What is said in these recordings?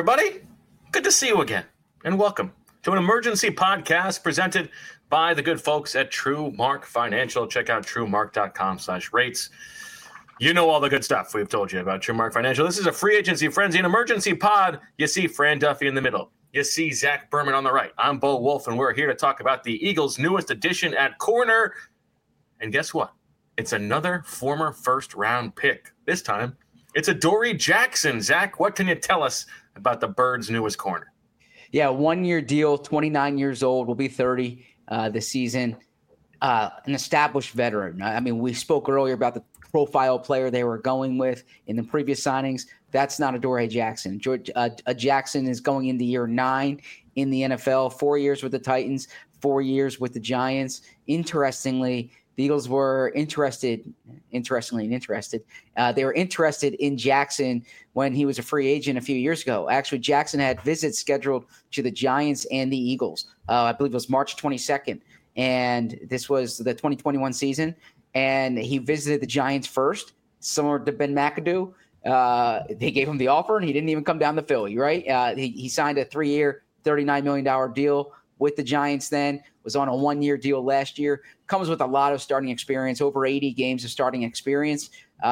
everybody. Good to see you again, and welcome to an emergency podcast presented by the good folks at TrueMark Financial. Check out TrueMark.com/rates. You know all the good stuff we've told you about TrueMark Financial. This is a free agency frenzy, an emergency pod. You see Fran Duffy in the middle. You see Zach Berman on the right. I'm Bo Wolf, and we're here to talk about the Eagles' newest addition at corner. And guess what? It's another former first-round pick. This time, it's Adoree Jackson. Zach, what can you tell us about the Birds' newest corner? Yeah, 1-year deal, 29 years old, will be 30 this season. An established veteran. I mean, we spoke earlier about the profile player they were going with in the previous signings. That's not Adoree Jackson. Jackson is going into year 9 in the NFL, 4 years with the Titans, 4 years with the Giants. Interestingly, the Eagles were interested. They were interested in Jackson when he was a free agent a few years ago. Actually, Jackson had visits scheduled to the Giants and the Eagles. I believe it was March 22nd. And this was the 2021 season. And he visited the Giants first, similar to Ben McAdoo. They gave him the offer, and he didn't even come down to Philly, right? He signed a 3-year, $39 million deal with the Giants then, was on a 1-year deal last year, comes with a lot of starting experience, over 80 games of starting experience.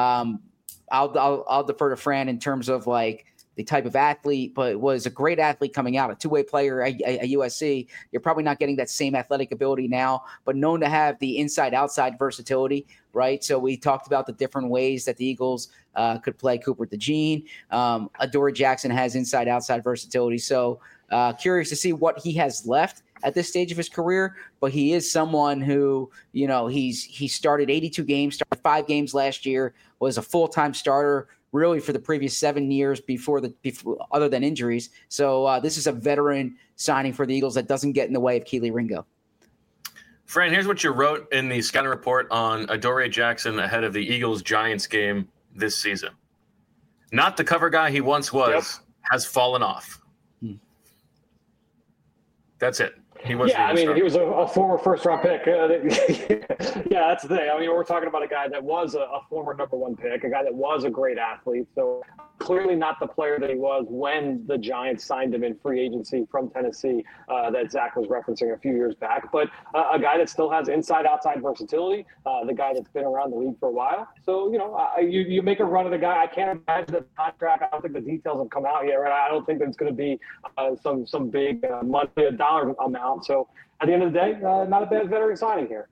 I'll defer to Fran in terms of like the type of athlete, but was a great athlete coming out, a two-way player at USC. You're probably not getting that same athletic ability now, but known to have the inside-outside versatility, right? So we talked about the different ways that the Eagles could play Cooper DeJean. Adoree Jackson has inside-outside versatility. So curious to see what he has left at this stage of his career, but he is someone who, you know, he started 82 games, started 5 games last year, was a full-time starter really for the previous 7 years before other than injuries. So this is a veteran signing for the Eagles that doesn't get in the way of Kelee Ringo. Fran, here's what you wrote in the scouting report on Adoree Jackson ahead of the Eagles-Giants game this season. Not the cover guy he once was, has fallen off. That's it. He was. Yeah, I mean, he was a former first-round pick. Yeah, that's the thing. I mean, we're talking about a guy that was a former number 1 pick, a guy that was a great athlete. So clearly not the player that he was when the Giants signed him in free agency from Tennessee that Zach was referencing a few years back. But a guy that still has inside-outside versatility, the guy that's been around the league for a while. So, you know, you make a run of the guy. I can't imagine the contract. I don't think the details have come out yet, right? I don't think that it's going to be some big monthly dollar amount. So at the end of the day, not a bad veteran signing here.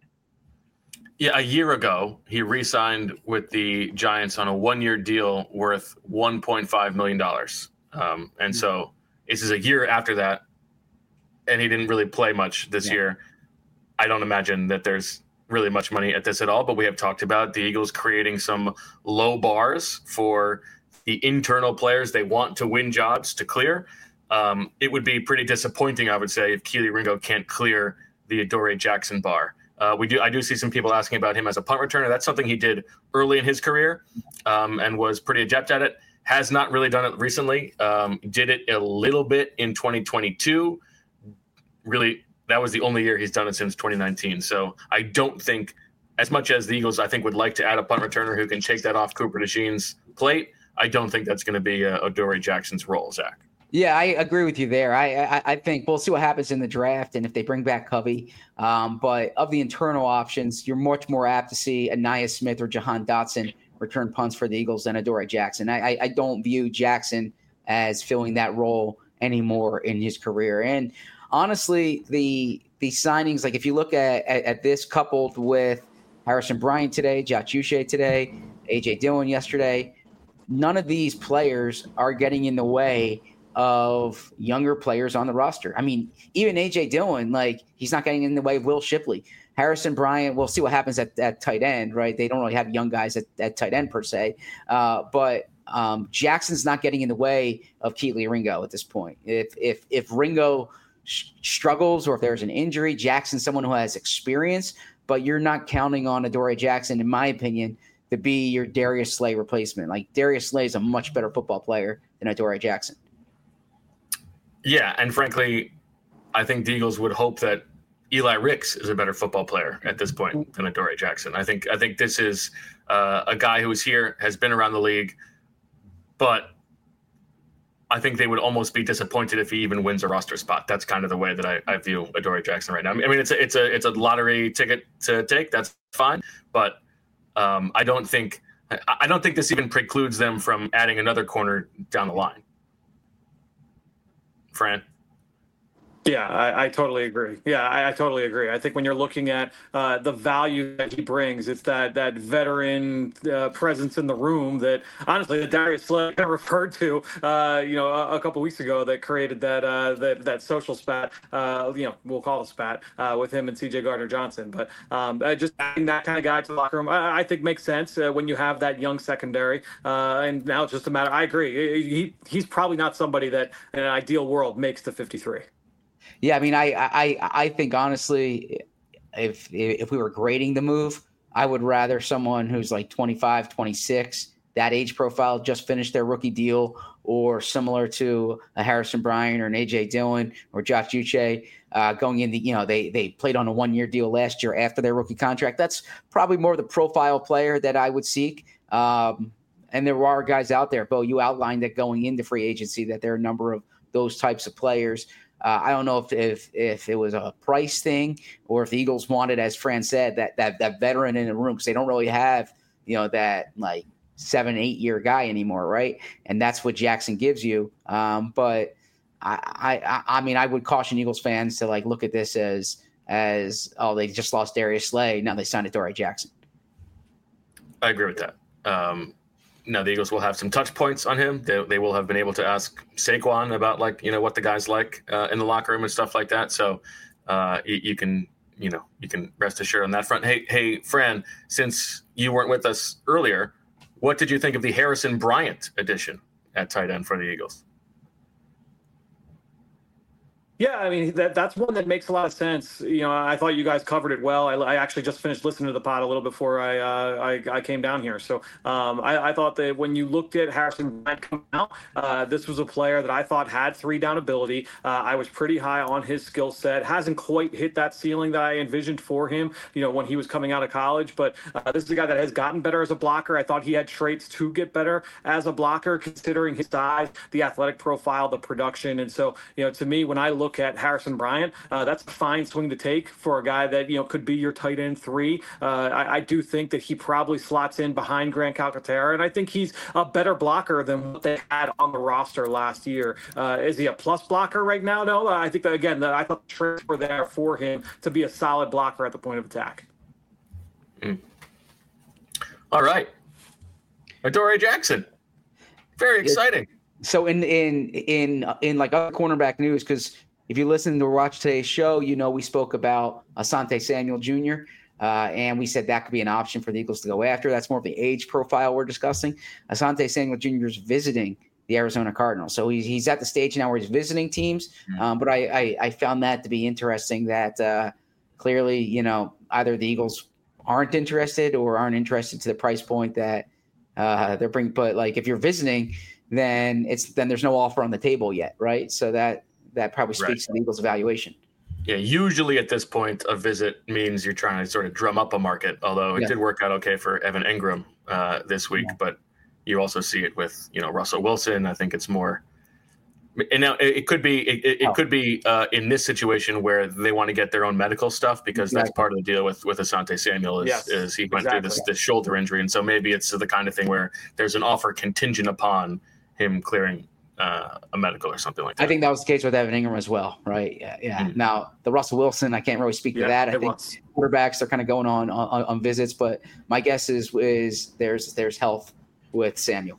Yeah, a year ago, he re-signed with the Giants on a 1-year deal worth $1.5 million. And so this is a year after that, and he didn't really play much this year. I don't imagine that there's really much money at this at all, but we have talked about the Eagles creating some low bars for the internal players they want to win jobs to clear. It would be pretty disappointing, I would say, if Kelee Ringo can't clear the Adoree Jackson bar. I do see some people asking about him as a punt returner. That's something he did early in his career and was pretty adept at it. Has not really done it recently. Did it a little bit in 2022. Really, that was the only year he's done it since 2019. So I don't think, as much as the Eagles, I think, would like to add a punt returner who can take that off Cooper DeJean's plate, I don't think that's going to be Adoree Jackson's role, Zach. Yeah, I agree with you there. I think we'll see what happens in the draft and if they bring back Covey. But of the internal options, you're much more apt to see Ainias Smith or Jahan Dotson return punts for the Eagles than Adoree Jackson. I don't view Jackson as filling that role anymore in his career. And honestly, the signings, like if you look at this coupled with Harrison Bryant today, Josh Uche today, A.J. Dillon yesterday, none of these players are getting in the way of younger players on the roster. I mean, even A.J. Dillon, like, he's not getting in the way of Will Shipley. Harrison Bryant, we'll see what happens at tight end, right? They don't really have young guys at tight end per se. But Jackson's not getting in the way of Kelee Ringo at this point. If Ringo struggles or if there's an injury, Jackson's someone who has experience, but you're not counting on Adoree Jackson, in my opinion, to be your Darius Slay replacement. Like, Darius Slay is a much better football player than Adoree Jackson. Yeah, and frankly, I think the Eagles would hope that Eli Ricks is a better football player at this point than Adoree Jackson. I think this is a guy who is here, has been around the league, but I think they would almost be disappointed if he even wins a roster spot. That's kind of the way that I view Adoree Jackson right now. I mean, it's a lottery ticket to take. That's fine, but I don't think this even precludes them from adding another corner down the line. Fran? Yeah, I totally agree. Yeah, I totally agree. I think when you're looking at the value that he brings, it's that veteran presence in the room that honestly that Darius Slay kind of referred to, a couple weeks ago that created that social spat. We'll call it a spat with him and C.J. Gardner-Johnson. But just adding that kind of guy to the locker room, I think makes sense when you have that young secondary. And now it's just a matter. I agree. He's probably not somebody that in an ideal world makes the 53. Yeah, I mean, I think honestly, if we were grading the move, I would rather someone who's like 25, 26, that age profile, just finished their rookie deal, or similar to a Harrison Bryant or an A.J. Dillon or Josh Uche going in they played on a 1-year deal last year after their rookie contract. That's probably more the profile player that I would seek. And there are guys out there, Bo, you outlined that going into free agency that there are a number of those types of players. I don't know if it was a price thing or if the Eagles wanted, as Fran said, that veteran in the room, because they don't really have, that like 7-8 year guy anymore, right? And that's what Jackson gives you. But I mean, I would caution Eagles fans to like look at this as they just lost Darius Slay, now they signed Adoree Jackson. I agree with that. Now the Eagles will have some touch points on him. They will have been able to ask Saquon about what the guy's like in the locker room and stuff like that. So you can rest assured on that front. Hey, Fran, since you weren't with us earlier, what did you think of the Harrison Bryant addition at tight end for the Eagles? Yeah, I mean, that's one that makes a lot of sense. I thought you guys covered it well. I actually just finished listening to the pod a little before I came down here. So I thought that when you looked at Harrison Bryant come out, this was a player that I thought had 3-down ability. I was pretty high on his skill set. Hasn't quite hit that ceiling that I envisioned for him, when he was coming out of college. But this is a guy that has gotten better as a blocker. I thought he had traits to get better as a blocker, considering his size, the athletic profile, the production. And so, to me, when I look at Harrison Bryant, that's a fine swing to take for a guy that could be your tight end 3. I do think that he probably slots in behind Grant Calcaterra, and I think he's a better blocker than what they had on the roster last year. Is he a plus blocker right now? No, I think that again, I thought the traits were there for him to be a solid blocker at the point of attack. All right, Adoree Jackson, very exciting. So in like other cornerback news, because if you listen to watch today's show, we spoke about Asante Samuel Jr. And we said that could be an option for the Eagles to go after. That's more of the age profile we're discussing. Asante Samuel Jr. is visiting the Arizona Cardinals, so he's at the stage now where he's visiting teams. But I found that to be interesting. That clearly, either the Eagles aren't interested or aren't interested to the price point that they're bringing. But like if you're visiting, then there's no offer on the table yet, right? So that probably speaks to the Eagles' evaluation. Yeah, usually at this point, a visit means you're trying to sort of drum up a market, although it did work out okay for Evan Engram this week. Yeah. But you also see it with, Russell Wilson. I think it's more – and now it could be in this situation where they want to get their own medical stuff because that's part of the deal with Asante Samuel is he went through this shoulder injury. And so maybe it's the kind of thing where there's an offer contingent upon him clearing a medical or something like that. I think that was the case with Evan Engram as well, right? Yeah. Mm-hmm. Now, the Russell Wilson, I can't really speak to that. I think quarterbacks are kind of going on visits, but my guess is there's health with Samuel.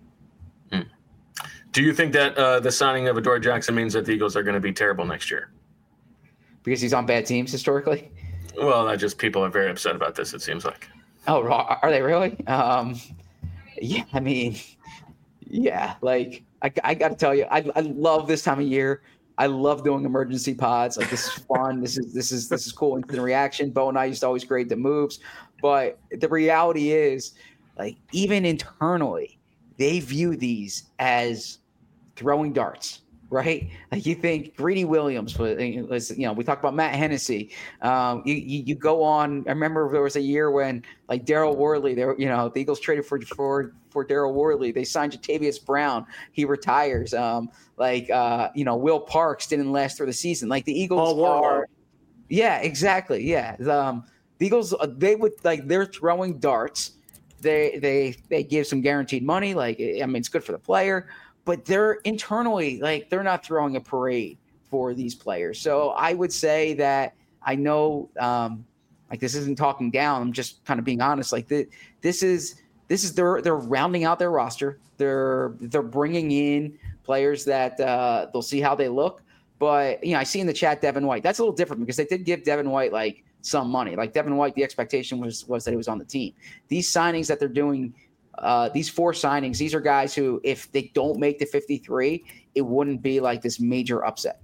Do you think that the signing of Adoree Jackson means that the Eagles are going to be terrible next year? Because he's on bad teams historically? Well, not just people are very upset about this, it seems like. Oh, are they really? Yeah, I mean, yeah, like I got to tell you, I love this time of year. I love doing emergency pods. Like this is fun. This is cool. Instant reaction. Bo and I used to always grade the moves, but the reality is, like even internally, they view these as throwing darts, right? Like you think Greedy Williams was, we talked about Matt Hennessy. You go on. I remember there was a year when like Daryl Worley, the Eagles traded for Daryl Worley. They signed Jatavius Brown. He retires. Will Parks didn't last through the season. Like the Eagles are. Yeah, exactly. Yeah. The Eagles, they're throwing darts. They give some guaranteed money. It's good for the player. But they're internally, they're not throwing a parade for these players. So I would say that I know, this isn't talking down. I'm just kind of being honest. This is they're rounding out their roster. They're bringing in players that they'll see how they look. But I see in the chat Devin White. That's a little different because they did give Devin White some money. Devin White, the expectation was that he was on the team. These signings that they're doing. These 4 signings, these are guys who, if they don't make the 53, it wouldn't be like this major upset.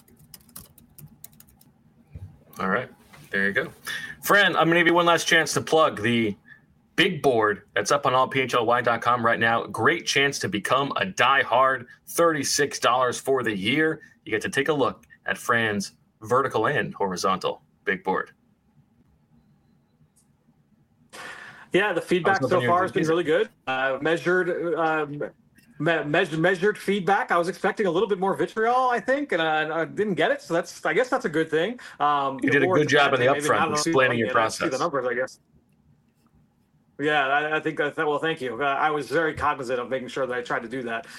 All right. There you go. Fran, I'm going to give you one last chance to plug the big board that's up on allphly.com right now. Great chance to become a diehard, $36 for the year. You get to take a look at Fran's vertical and horizontal big board. Yeah, the feedback so far has been really good. Measured feedback. I was expecting a little bit more vitriol, I think, and I didn't get it. So I guess that's a good thing. You did a good job in the upfront explaining your process. The numbers, I guess. Yeah, I think that. Well, thank you. I was very cognizant of making sure that I tried to do that.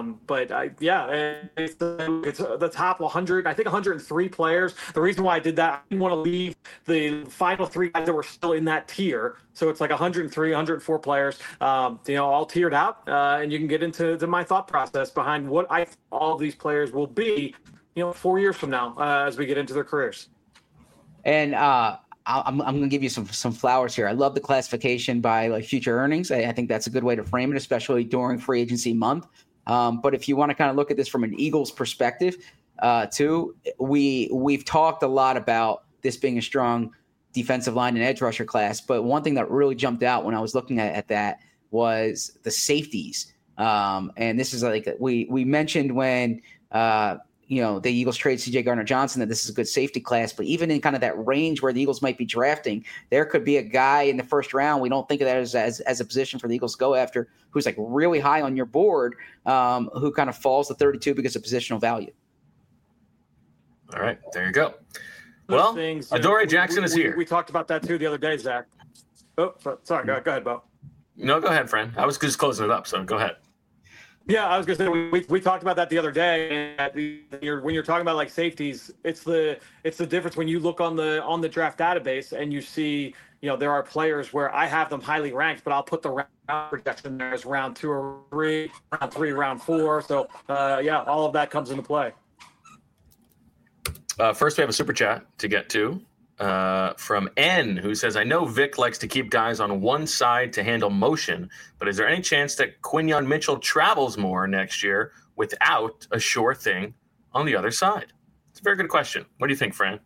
It's the top 100. I think 103 players. The reason why I did that, I didn't want to leave the final 3 guys that were still in that tier. So it's 103, 104 players. All tiered out, and you can get into my thought process behind what I think all of these players will be, 4 years from now as we get into their careers. And I'm going to give you some flowers here. I love the classification by future earnings. I think that's a good way to frame it, especially during free agency month. But if you want to kind of look at this from an Eagles perspective, too, we've talked a lot about this being a strong defensive line and edge rusher class. But one thing that really jumped out when I was looking at that was the safeties. And this is we mentioned when the Eagles trade C.J. Gardner-Johnson that this is a good safety class, but even in kind of that range where the Eagles might be drafting, there could be a guy in the first round. We don't think of that as a position for the Eagles to go after who's really high on your board, who kind of falls to 32 because of positional value. All right, there you go. Well, Adoree Jackson is here. We talked about that too the other day, Zach. Oh, sorry. Go ahead, Bo. No, go ahead, friend. I was just closing it up, so go ahead. Yeah, I was going to say we talked about that the other day. When you're talking about safeties, it's the difference when you look on the draft database and you see there are players where I have them highly ranked, but I'll put the round projection there as round 2 or 3, round 3, round 4. So all of that comes into play. First, we have a super chat to get to from N, who says, I know Vic likes to keep guys on one side to handle motion, but is there any chance that Quinyon Mitchell travels more next year without a sure thing on the other side? It's a very good question. What do you think, Fran?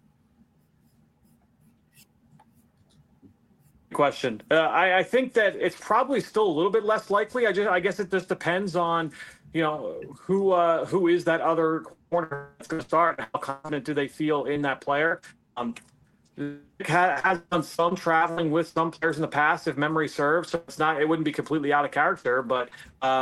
Question. I think that it's probably still a little bit less likely. I guess it just depends on who is that other corner that's going to start. How confident do they feel in that player? Has done some traveling with some players in the past, if memory serves. So it wouldn't be completely out of character. But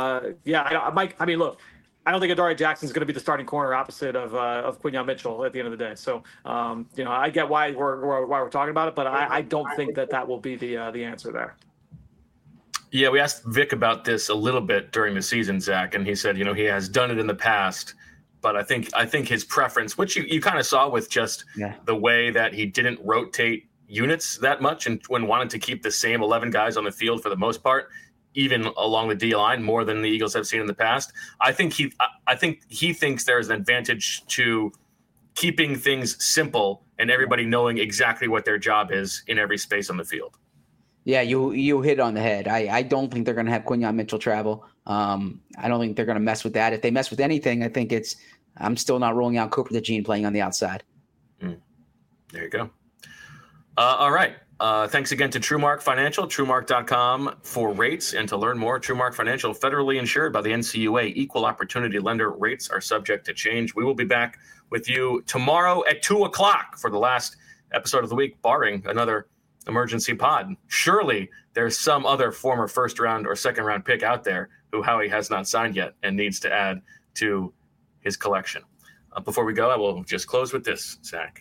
look, I don't think Adoree Jackson is going to be the starting corner opposite of Quinyon Mitchell at the end of the day. So I get why we're talking about it, but I don't think that will be the answer there. Yeah, we asked Vic about this a little bit during the season, Zach, and he said he has done it in the past. But I think his preference, which you kind of saw with just the way that he didn't rotate units that much and when wanted to keep the same 11 guys on the field for the most part, even along the D line more than the Eagles have seen in the past. I think he thinks there's an advantage to keeping things simple and everybody knowing exactly what their job is in every space on the field. Yeah, you hit on the head. I don't think they're going to have Quinyon Mitchell travel. I don't think they're going to mess with that. If they mess with anything, I think I'm still not ruling out Cooper DeJean playing on the outside. There you go. All right. Thanks again to TrueMark Financial, TrueMark.com for rates and to learn more. TrueMark Financial, federally insured by the NCUA, equal opportunity lender. Rates are subject to change. We will be back with you tomorrow at 2:00 for the last episode of the week, barring another emergency pod. Surely there's some other former first round or second round pick out there who Howie has not signed yet and needs to add to his collection. Before we go, I will just close with this, Zach.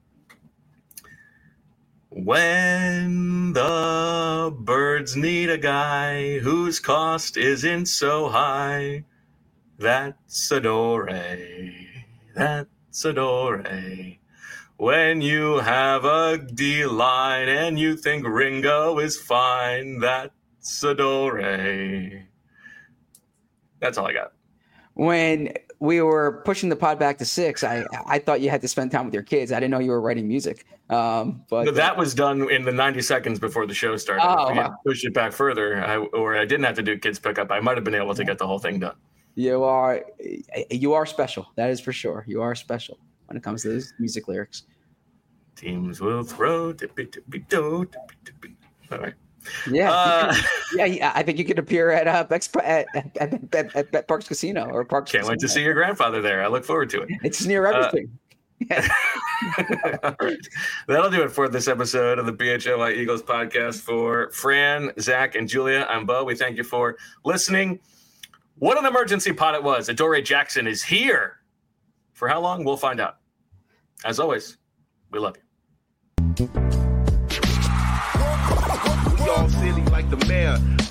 When the birds need a guy whose cost isn't so high, that's Adore. That's Adore. When you have a D-line and you think Ringo is fine, that's Adore. That's all I got. When we were pushing the pod back to 6, I thought you had to spend time with your kids. I didn't know you were writing music. But that was done in the 90 seconds before the show started. Oh, if we had pushed it back further, I didn't have to do kids pickup, I might have been able to get the whole thing done. You are special. That is for sure. You are special when it comes to those music lyrics. Teams will throw. All right. Yeah, I think you could appear at Parks Casino or Parks. Can't wait to see your grandfather there. I look forward to it. It's near everything. All right. That'll do it for this episode of the BHLY Eagles podcast. For Fran, Zach, and Julia, I'm Bo. We thank you for listening. What an emergency pod it was. Adore Jackson is here. For how long? We'll find out. As always, we love you. We all silly like the mayor.